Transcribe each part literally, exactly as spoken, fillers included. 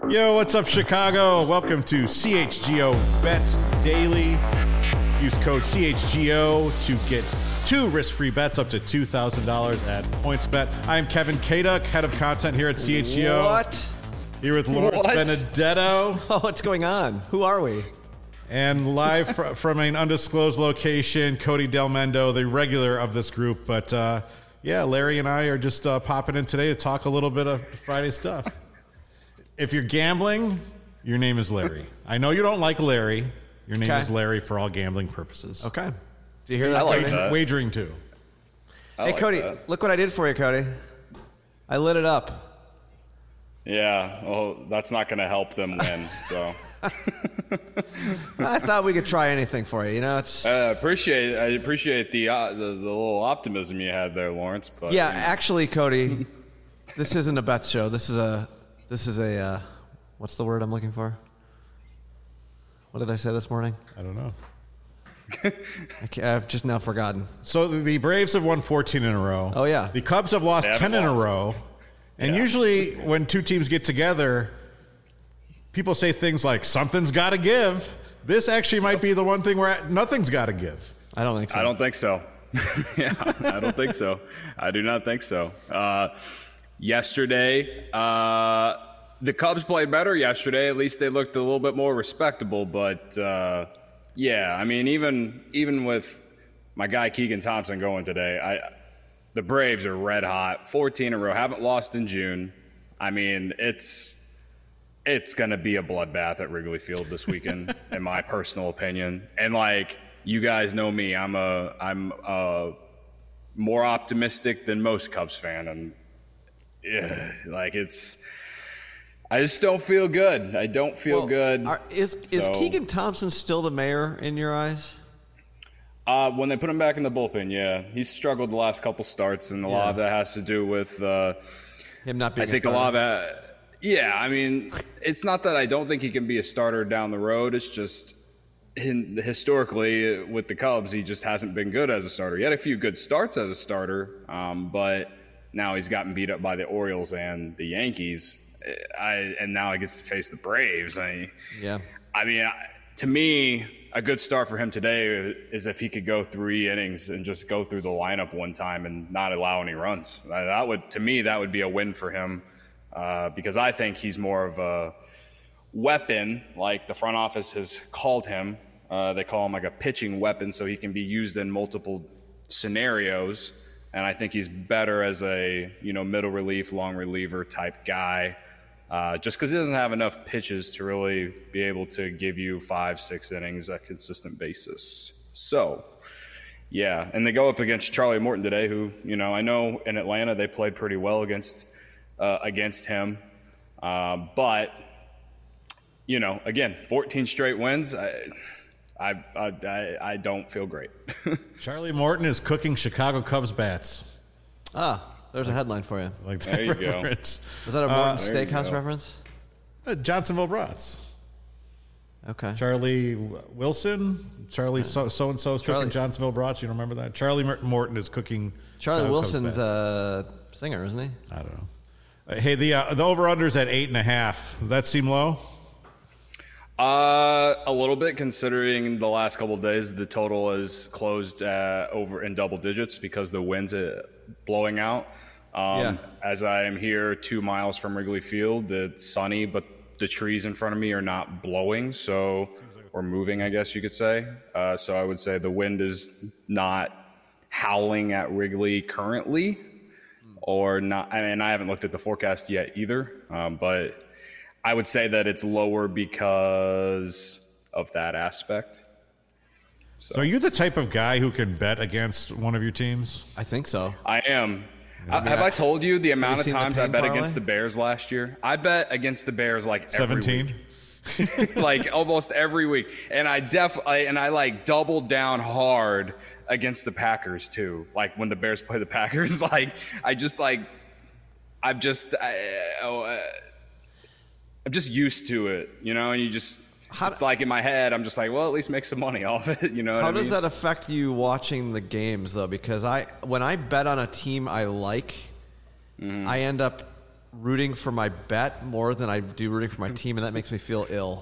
Yo, what's up, Chicago? Welcome to C H G O Bets Daily. Use code C H G O to get two risk-free bets up to two thousand dollars at PointsBet. I am Kevin Kaduk, head of content here at C H G O. What? Here with Lawrence What? Benedetto. Oh, what's going on? Who are we? And live fr- from an undisclosed location, Cody Del Mendo, the regular of this group. But uh, yeah, Larry and I are just uh, popping in today to talk a little bit of Friday stuff. If you're gambling, your name is Larry. I know you don't like Larry. Your name Okay. is Larry for all gambling purposes. Okay. Do you hear that, I like Cody? that. Wagering too. I Hey, like Cody, that. look what I did for you, Cody. I lit it up. Yeah, well, that's not going to help them win. So I thought we could try anything for you. You know, it's I appreciate I appreciate the, uh, the the little optimism you had there, Lawrence. But yeah. Actually, Cody, this isn't a bets show. This is a this is a uh, what's the word I'm looking for? What did I say this morning? I don't know. I can't, I've just now forgotten. So the Braves have won fourteen in a row. Oh, yeah. The Cubs have lost They haven't ten in a lost. row. And Yeah. usually when two teams get together, people say things like, something's got to give. This actually might be the one thing where nothing's got to give. I don't think so. I don't think so. yeah, I don't think so. I do not think so. Uh, yesterday, uh, the Cubs played better yesterday. At least they looked a little bit more respectable. But uh, yeah, I mean, even even with my guy Keegan Thompson going today, I the Braves are red hot. fourteen in a row, haven't lost in June. I mean, it's it's going to be a bloodbath at Wrigley Field this weekend, in my personal opinion. And like, you guys know me, I'm a I'm a more optimistic than most Cubs fan, and yeah, like it's. I just don't feel good. I don't feel Well, good. Are, is is So- Keegan Thompson still the mayor in your eyes? Uh, when they put him back in the bullpen, yeah, he's struggled the last couple starts, and a lot Yeah. of that has to do with. Uh, Him not I being. think a lot of that. Yeah, I mean, it's not that I don't think he can be a starter down the road. It's just hin- historically with the Cubs, he just hasn't been good as a starter. He had a few good starts as a starter, um, but now he's gotten beat up by the Orioles and the Yankees. I, and now he gets to face the Braves. I, Yeah. I mean, I- to me, a good start for him today is if he could go three innings and just go through the lineup one time and not allow any runs. Uh, That would, to me, that would be a win for him uh, because I think he's more of a weapon, like the front office has called him. Uh, they call him like a pitching weapon, so he can be used in multiple scenarios. And I think he's better as a you know middle relief, long reliever type guy. Uh, just because he doesn't have enough pitches to really be able to give you five, six innings at a consistent basis. So, yeah. And they go up against Charlie Morton today, who, you know, I know in Atlanta they played pretty well against uh, against him. Uh, but, you know, again, fourteen straight wins. I, I, I, I don't feel great. Charlie Morton is cooking Chicago Cubs bats. Ah, there's a headline for you. Like that There you go. reference. Was that a Morton there you Steakhouse go. reference? Uh, Johnsonville Brats. Okay. Charlie Wilson, Charlie so so and so is Charlie- cooking Johnsonville Brats. You don't remember that? Charlie Mer- Morton is cooking. Charlie Chicago Cubs Wilson's bats. a singer, isn't he? I don't know. Uh, hey, the uh, the over unders at eight and a half. Does that seem low? Uh, a little bit, considering the last couple of days, the total is closed uh, over in double digits because the wind's uh, blowing out. Um, Yeah. As I am here two miles from Wrigley Field, it's sunny, but the trees in front of me are not blowing, so or moving, I guess you could say. Uh, so I would say the wind is not howling at Wrigley currently, or not. I mean, I haven't looked at the forecast yet either, um, but. I would say that it's lower because of that aspect. So are you the type of guy who can bet against one of your teams? I think so. I am. Uh, have I told you the amount you of seen the times I pain bet parlay? against the Bears last year? I bet against the Bears like every Seventeen. week. like almost every week. And I def I, and I like doubled down hard against the Packers too. Like when the Bears play the Packers, like I just like I'm just I, oh, uh, I'm just used to it, you know, and you just How it's like in my head, I'm just like, well, at least make some money off it, you know what How I mean? does that affect you watching the games though? Because I when I bet on a team I like, Mm-hmm. I end up rooting for my bet more than I do rooting for my team, and that makes me feel ill.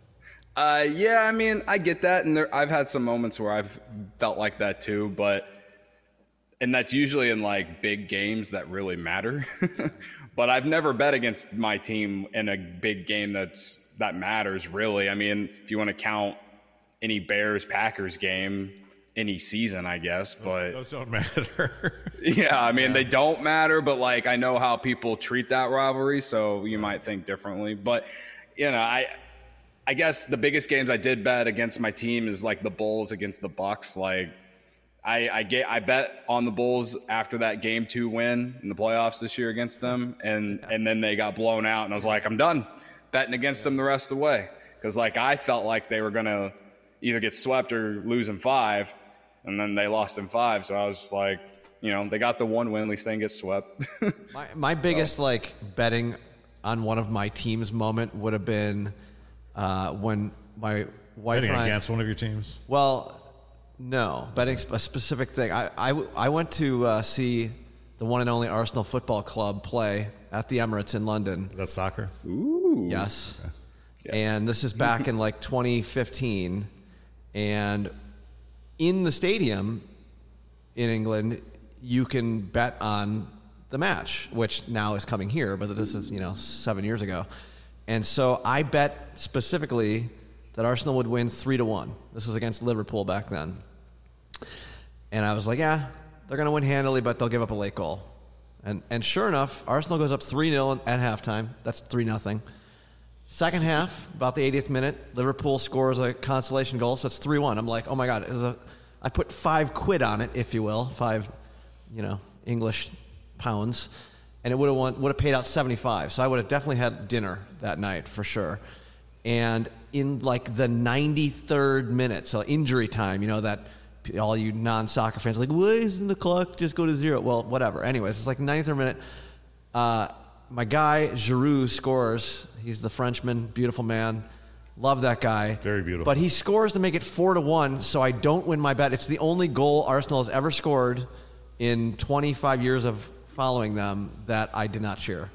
Uh, yeah, I mean, I get that, and there, I've had some moments where I've felt like that too, but and that's usually in like big games that really matter. But I've never bet against my team in a big game that's that matters really. I mean, if you want to count any Bears Packers game any season, I guess, but those don't matter. Yeah, I mean, yeah. They don't matter, but like I know how people treat that rivalry, so you might think differently. But you know, I I guess the biggest games I did bet against my team is like the Bulls against the Bucks. Like I I get I bet on the Bulls after that game two win in the playoffs this year against them, and yeah. and then they got blown out, and I was like, I'm done betting against them the rest of the way, because like I felt like they were gonna either get swept or lose in five, and then they lost in five, so I was just like, you know, they got the one win, at least they didn't get swept. my my biggest so. like betting on one of my teams moment would have been uh, when my wife betting and I, against one of your teams. Well, no, betting a specific thing. I I, I went to uh, see the one and only Arsenal Football Club play at the Emirates in London. Is that soccer? Ooh. Yes. Okay. Yes. And this is back in like twenty fifteen, and in the stadium in England, you can bet on the match, which now is coming here, but this is, you know, seven years ago. And so I bet specifically that Arsenal would win three to one. This was against Liverpool back then. And I was like, yeah, they're going to win handily, but they'll give up a late goal. And and sure enough, Arsenal goes up three nil at halftime. That's three nothing. Second half, about the eightieth minute, Liverpool scores a consolation goal, so it's three one. I'm like, oh my God, it was a, I put five quid on it, if you will, five, you know, English pounds, and it would have won, would have paid out seventy-five. So I would have definitely had dinner that night for sure. And in like the ninety-third minute, so injury time, you know, that all you non-soccer fans are like, why isn't the clock just go to zero? Well, whatever. Anyways, it's like ninety-third minute. Uh, my guy, Giroud, scores. He's the Frenchman, beautiful man. Love that guy. Very beautiful. But he scores to make it four to one, so I don't win my bet. It's the only goal Arsenal has ever scored in twenty-five years of following them that I did not cheer.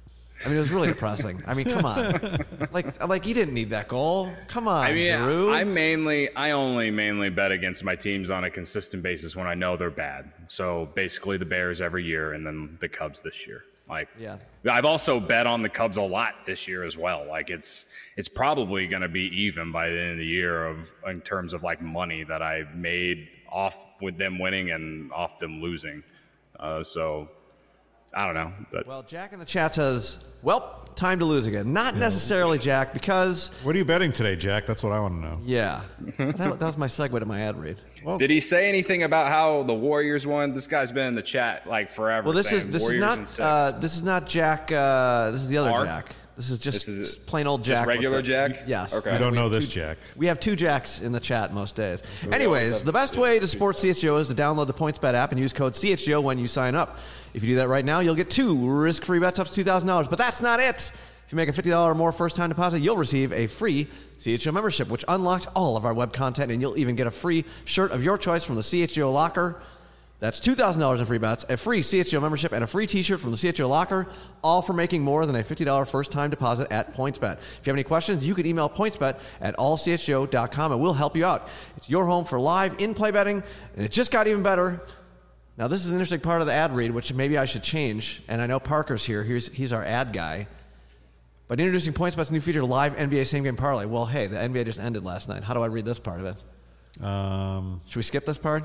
I mean, it was really depressing. I mean, come on. Like, like he didn't need that goal. Come on, I mean, Giroud. I mainly, I only mainly bet against my teams on a consistent basis when I know they're bad. So basically the Bears every year and then the Cubs this year. Like, yeah. I've also bet on the Cubs a lot this year as well. Like, it's it's probably going to be even by the end of the year of in terms of like money that I made off with them winning and off them losing. Uh, so I don't know. But. Well, Jack in the chat says, well, time to lose again. Not necessarily, Jack, because... What are you betting today, Jack? That's what I want to know. Yeah. that, that was my segue to my ad read. Well, did he say anything about how the Warriors won? This guy's been in the chat like forever. Well, this is this Warriors is not uh, this is not Jack. Uh, this is the other Mark? Jack. This is just this is plain old Jack. Just regular the, Jack? Yes. Okay. I don't know this two, Jack. We have two Jacks in the chat most days. We Anyways, the best way to support C H G O is to download the PointsBet app and use code C H G O when you sign up. If you do that right now, you'll get two risk-free bets up to two thousand dollars. But that's not it. If you make a fifty dollars or more first-time deposit, you'll receive a free C H G O membership, which unlocks all of our web content, and you'll even get a free shirt of your choice from the C H G O Locker. That's two thousand dollars in free bets, a free C H G O membership, and a free t-shirt from the C H G O Locker, all for making more than a fifty dollars first-time deposit at PointsBet. If you have any questions, you can email PointsBet at all c h g o dot com, and we'll help you out. It's your home for live in-play betting, and it just got even better. Now, this is an interesting part of the ad read, which maybe I should change, and I know Parker's here. He's, he's our ad guy. But introducing PointsBet's new feature, live N B A same-game parlay. Well, hey, the N B A just ended last night. How do I read this part of it? Um, Should we skip this part?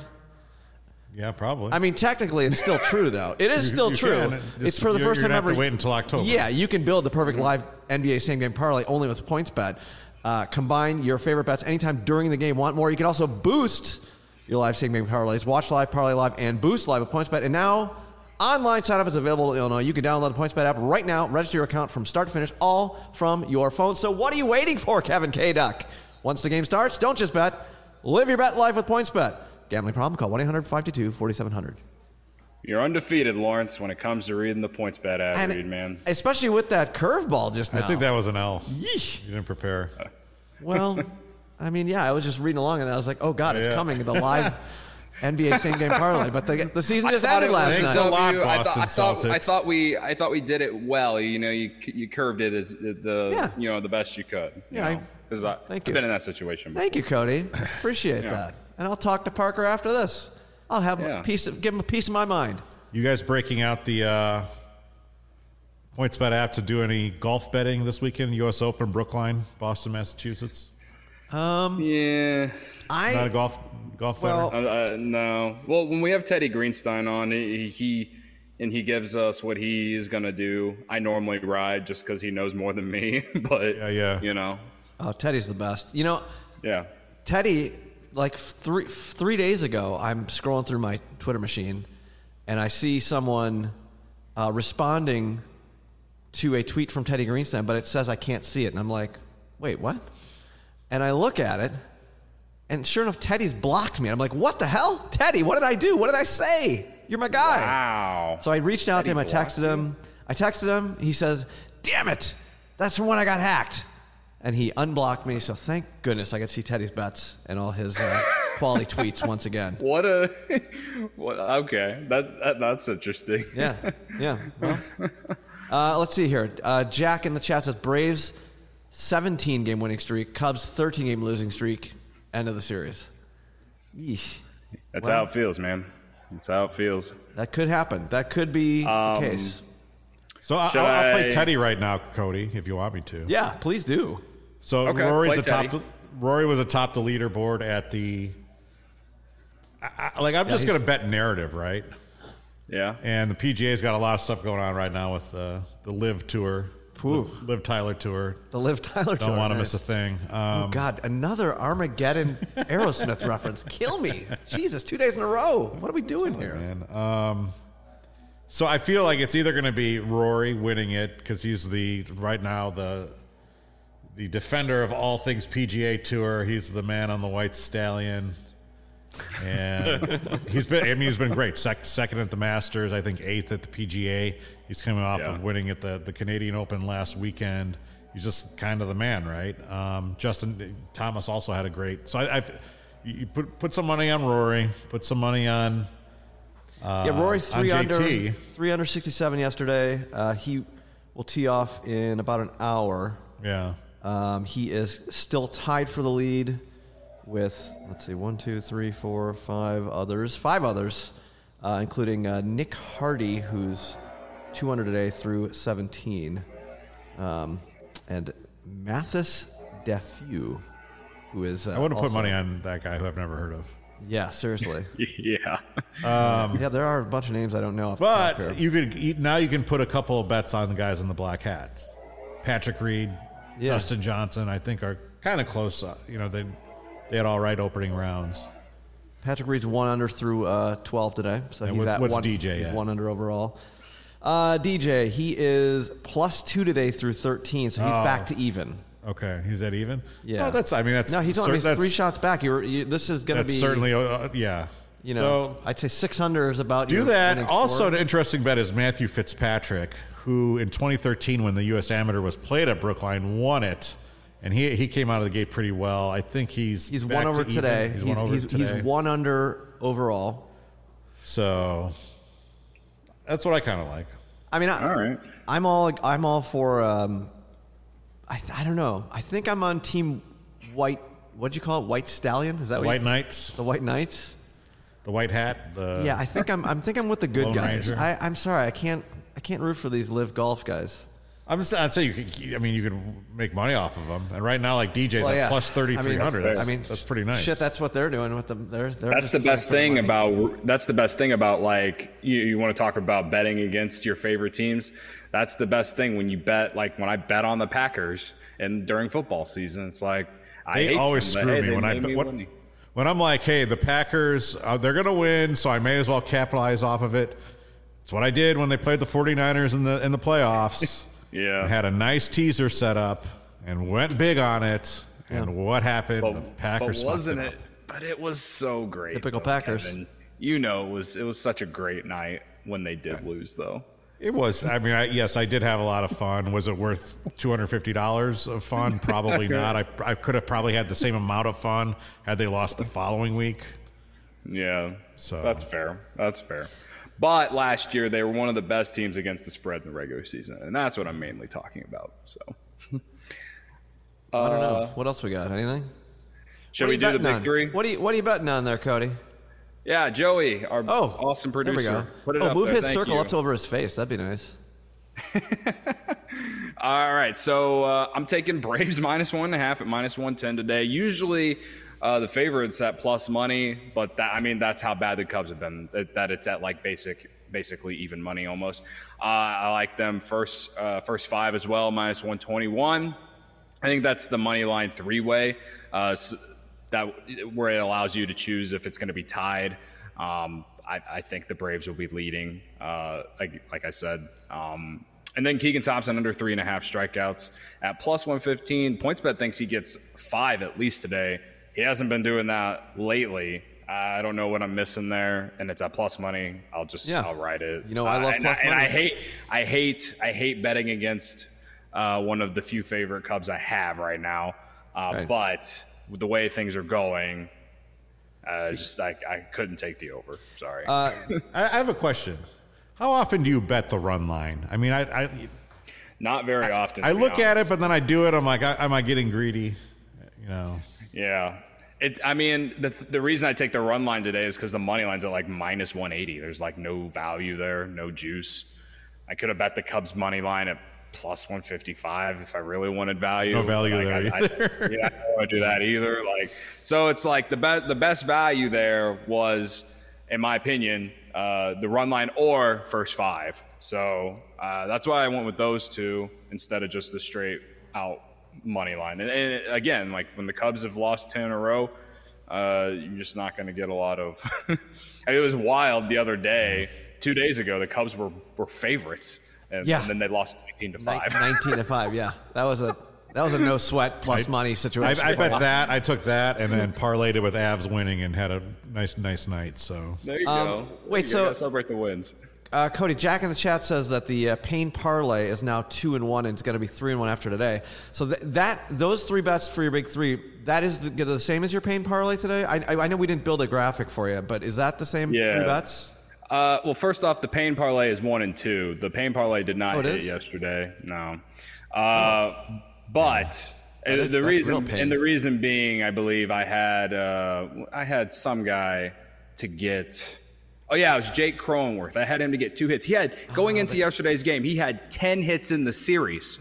Yeah, probably. I mean, technically, it's still true, though. It is You- still you true. can. Just- It's for the you're- first you're time gonna have ever. to wait until October. Yeah, you can build the perfect live N B A same-game parlay only with PointsBet. Uh, combine your favorite bets anytime during the game. Want more? You can also boost your live same-game parlays. Watch live, parlay live, and boost live with PointsBet. And now, online sign-up is available in Illinois. You can download the PointsBet app right now. Register your account from start to finish, all from your phone. So what are you waiting for, Kevin K. Duck? Once the game starts, don't just bet. Live your bet life with PointsBet. Gambling problem? Call one eight hundred five two two four seven zero zero. You're undefeated, Lawrence, when it comes to reading the PointsBet ad And read, man. especially with that curveball just now. I think that was an L. Yeesh. You didn't prepare. Well, I mean, yeah, I was just reading along, and I was like, oh, God, it's Yeah. coming. The live N B A same game parlay, but the, the season just thought ended it was last Thanks night. a lot, W. I thought, Boston I thought, Celtics. I thought we, I thought we did it well. You know, you you curved it as the, Yeah. you know, the best you could. You Yeah, I- know, because I, thank I've you. been in that situation. Thank you, Cody. Appreciate Yeah. that. And I'll talk to Parker after this. I'll have Yeah. a piece of, give him a piece of my mind. You guys breaking out the uh, PointsBet app to do any golf betting this weekend? U S Open, Brookline, Boston, Massachusetts. Yeah. I Not a golf golf Well- bettor? Uh, uh, no. Well, when we have Teddy Greenstein on, he, he and he gives us what he is gonna do. I normally ride just because he knows more than me, but Yeah, yeah. you know, oh, Teddy's the best. You know, yeah. Teddy, like three three days ago, I'm scrolling through my Twitter machine, and I see someone uh, responding to a tweet from Teddy Greenstein, but it says I can't see it, and I'm like, wait, what? And I look at it, and sure enough, Teddy's blocked me. I'm like, what the hell, Teddy? What did I do? What did I say? You're my guy. Wow. So I reached out to him. I Teddy texted him. I texted him. He says, damn it, that's from when I got hacked. And he unblocked me, so thank goodness I could see Teddy's bets and all his uh, quality tweets once again. What a. What, okay, that, that that's interesting. Yeah, yeah. Well, uh, let's see here. Uh, Jack in the chat says Braves seventeen game winning streak, Cubs thirteen game losing streak, end of the series. Yeesh. That's Well- how it feels, man. That's how it feels. That could happen. That could be Um, the case. So I, should I'll, I'll play I- Teddy right now, Cody, if you want me to. Yeah, please do. So Okay, Rory's play atop Teddy. the, Rory was atop the leaderboard at the. I, I, like I'm just he's- going to bet narrative, right? Yeah. And the P G A's got a lot of stuff going on right now with the the Live Tour, Whew. the Live Tyler Tour. The Liv Tyler Don't tour, want to nice. miss a thing. Oh Um, God, another Armageddon Aerosmith reference. Kill me. Jesus, two days in a row. What are we doing here? man. Um, so I feel like it's either going to be Rory winning it because he's the right now the the defender of all things P G A Tour. He's the man on the white stallion, and he's been. I mean, he's been great. Sec- second at the Masters, I think eighth at the P G A. He's coming off Yeah. of winning at the the Canadian Open last weekend. He's just kind of the man, right? Um, Justin Thomas also had a great. So I, I you put put some money on Rory. Put some money on. Uh, Yeah, Rory on three J under, T. three under sixty-seven yesterday. Uh, he will tee off in about an hour. Yeah. Um, he is still tied for the lead with, let's see, one, two, three, four, five others, five others, uh, including uh, Nick Hardy, who's two under today through seventeen, um, and Mathis Defu, who is. Uh, I wouldn't put also- money on that guy who I've never heard of. Yeah, seriously. Yeah. Yeah, there are a bunch of names I don't know. off the top here. But you could you, now you can put a couple of bets on the guys in the black hats. Patrick Reed, Yeah. Justin Johnson, I think are kind of close. Uh, you know, they they had all right opening rounds. Patrick Reed's one under through uh, twelve today, so And he's what- at what's one. D J He's at? one under overall. Uh, D J, he is plus two today through thirteen, so he's Oh. back to even. Okay, he's at even. Yeah, oh, that's. I mean, that's no, he's cer- on. He's that's, three shots back. You're, you, this is going to That's be certainly. Uh, yeah. You know, So, I'd say six under is about. do your that. winning Also, score. an interesting bet is Matthew Fitzpatrick, who in twenty thirteen, when the U S Amateur was played at Brookline, won it, and he he came out of the gate pretty well. I think he's he's back one over to even. today. He's, He's, one over he's, today. he's one under overall. So that's what I kind of like. I mean, I, All right. I'm all I'm all for. Um, I I don't know. I think I'm on team white. What'd you call it? White Stallion? Is that The what White you, Knights, the White Knights? the White Hat. The Yeah, I think I'm. I'm think I'm with the good Lone guys. Ranger. I, I'm sorry, I can't. I can't root for these live golf guys. I'm just. I'd say you could. I mean, you could make money off of them. And right now, like D J's Well, at yeah. plus thirty three hundred. I That's, mean, that's pretty nice. Shit, that's what they're doing with them. They're, they're That's just the best playing thing for money. about that's the best thing about like you, you want to talk about betting against your favorite teams. That's the best thing when you bet. Like when I bet on the Packers and during football season, it's like I They hate always them, but screw hey, me they when I made bet. me When, money. when I'm like, hey, the Packers, uh, they're going to win, so I may as well capitalize off of it. It's what I did when they played the 49ers in the in the playoffs. Yeah. I had a nice teaser set up and went big on it. And what happened? But, the Packers but fucked wasn't it it? up. But it was so great. Typical though, Packers. Kevin. You know, it was it was such a great night when they did lose, though. It was. I mean, I, yes, I did have a lot of fun. Was it worth two hundred fifty dollars of fun? Probably not. I, I could have probably had the same amount of fun had they lost the following week. Yeah, So- that's fair. That's fair. But last year they were one of the best teams against the spread in the regular season, and that's what I'm mainly talking about. So, I don't know. Uh, What else we got? Anything? should What are we you do the betting big on? three? What are you What are you betting on there, Cody? Yeah, Joey, our Oh, awesome there we producer. go. Put it oh, up move there. his Thank circle you. up to over his face. That'd be nice. All right, so uh, I'm taking Braves minus one and a half at minus one ten today. Usually, uh, the favorites at plus money, but that, I mean that's how bad the Cubs have been. That, that it's at like basic, basically even money almost. Uh, I like them first, uh, first five as well, minus one twenty-one. I think that's the money line three way. Uh, so that where it allows you to choose if it's going to be tied. Um, I, I think the Braves will be leading, uh, like, like I said. Um, and then Keegan Thompson under three and a half strikeouts at plus one fifteen. PointsBet thinks he gets five at least today. He hasn't been doing that lately. I don't know what I'm missing there, and it's at plus money. I'll just Yeah. I'll write it. You know, I love and plus I, And money. I hate I hate I hate betting against uh, one of the few favorite Cubs I have right now. Uh, Right. But with the way things are going, uh, just I, I couldn't take the over. Sorry. Uh, I, I have a question. How often do you bet the run line? I mean, I I, Not very often. I to be look at honest. it, but then I do it. I'm like, I, am I getting greedy? You know. Yeah. It, I mean, the the reason I take the run line today is because the money line's at like minus one eighty. There's like no value there, no juice. I could have bet the Cubs money line at plus one fifty-five if I really wanted value. No value Like, there I, either. I, yeah, I don't want to do that either. Like, so it's like the best the best value there was, in my opinion, uh, the run line or first five. So uh, that's why I went with those two instead of just the straight out money line. And, and again, like when the Cubs have lost ten in a row, uh, you're just not going to get a lot of. I mean, it was wild the other day, two days ago. The Cubs were, were favorites, and, Yeah. and then they lost nineteen to five. nineteen to five. Yeah, that was a that was a no sweat plus money I, situation. I bet that. I took that and then parlayed it with Avs winning and had a nice, nice night. So There you Um, go. There wait, you so- go. Gotta celebrate the wins. Uh, Cody, Jack in the chat says that the uh, Payne parlay is now two and one, and it's going to be three and one after today. So th- that those three bets for your big three, that is the, the same as your Payne parlay today. I, I, I know we didn't build a graphic for you, but is that the same Yeah. three bets? Uh, well, first off, the Payne parlay is one and two. The Payne parlay did not Oh, it hit is? yesterday. No, uh, but That is- the that's reason real pain. and the reason being, I believe I had uh, I had some guy to get. Oh yeah, it was Jake Cronenworth. I had him to get two hits. He had going Oh, into yesterday's game, he had ten hits in the series.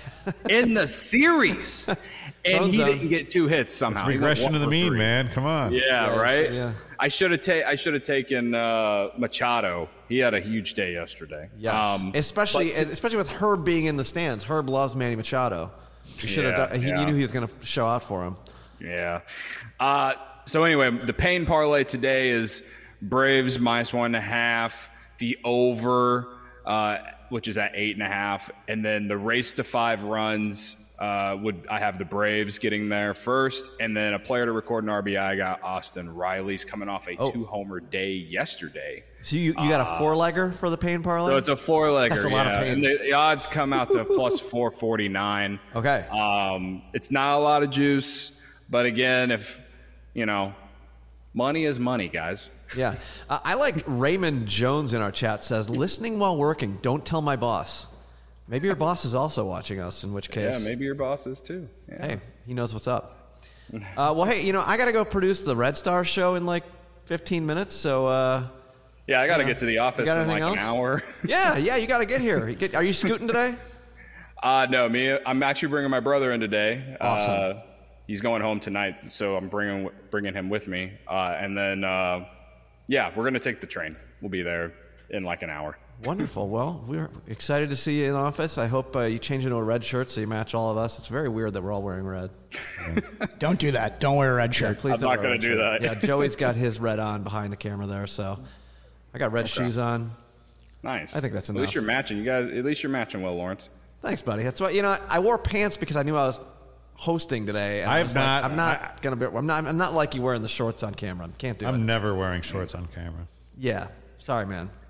in the series, and he Crone's, um, didn't get two hits somehow. He went regression one to the for mean, three. man. Come on. Yeah, Yeah, right. yeah. I should have ta- I should have taken uh, Machado. He had a huge day yesterday. Yes, Um, especially but- especially with Herb being in the stands. Herb loves Manny Machado. You should have. Yeah, done, he, yeah. You knew he was going to show out for him. Yeah. Uh, so anyway, the Payne parlay today is Braves minus one and a half, the over, uh, which is at eight and a half, and then the race to five runs. Uh, would I have the Braves getting there first, and then a player to record an R B I? I got Austin Riley's coming off a Oh. two-homer day yesterday. So you, you got a four legger for the Payne parlay? So it's a four-legger. That's a lot of yeah. pain. And the, the odds come out to plus four forty-nine. Okay. Um, it's not a lot of juice, but again, if you know, money is money, guys. Yeah. Uh, I like Raymond Jones in our chat says, listening while working, don't tell my boss. Maybe your boss is also watching us, in which case, Yeah, maybe your boss is too. Yeah. hey, he knows what's up. Uh, well, hey, you know, I got to go produce the Red Star show in like fifteen minutes. So, uh, Yeah, I got to Yeah. get to the office got in like anything an else? hour. yeah, yeah, you got to get here. You get- Are you scooting today? Uh, no, me. I'm actually bringing my brother in today. Awesome. Uh, he's going home tonight, so I'm bringing bringing him with me. Uh, and then, uh, yeah, we're gonna take the train. We'll be there in like an hour. Wonderful. Well, we're excited to see you in office. I hope uh, you change into a red shirt so you match all of us. It's very weird that we're all wearing red. Don't do that. Don't wear a red shirt. Please I'm don't not wear a gonna red do shirt. that. Yeah, Joey's got his red on behind the camera there, so I got red shoes on. Nice. I think that's At enough. least you're matching. You guys. At least you're matching well, Lawrence. Thanks, buddy. That's why you know I wore pants because I knew I was hosting today. And I I have was like, not- I'm not I- gonna be. I'm not. I'm not like you wearing the shorts on camera. Can't do it. I'm never wearing shorts on camera. Yeah. Sorry, man.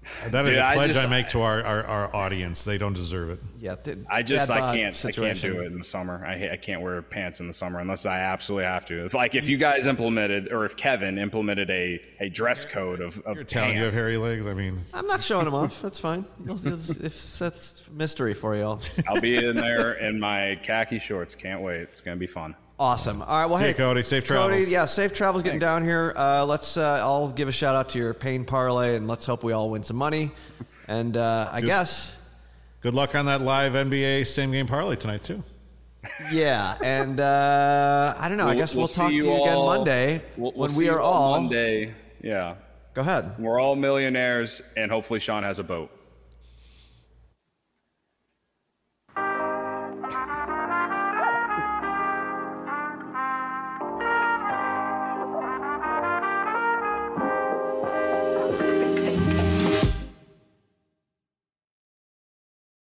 That is Dude, a I pledge I, just- make to our, our, our audience. They don't deserve it. Yeah, th- I just bad I bod can't situation. I can't do it in the summer. I ha- I can't wear pants in the summer unless I absolutely have to. If like if you guys implemented or if Kevin implemented a, a dress code of, of You're telling you have pants, hairy legs. I mean, I'm not showing them off. That's fine. You'll- you'll- if that's mystery for you all. I'll be in there in my khaki shorts. Can't wait. It's gonna be fun. Awesome. All right. Well, See hey, you, Cody. Safe Cody, travels. yeah, safe travels getting down here. Uh, let's. Uh, I'll give a shout out to your pain parlay, and let's hope we all win some money. And uh, I guess, good luck on that live N B A same game parlay tonight too. yeah. And uh, I don't know. I guess we'll, talk see to you again all- Monday we'll- we'll when see we you are all. Monday. Yeah, Go ahead. we're all millionaires, and hopefully Sean has a boat.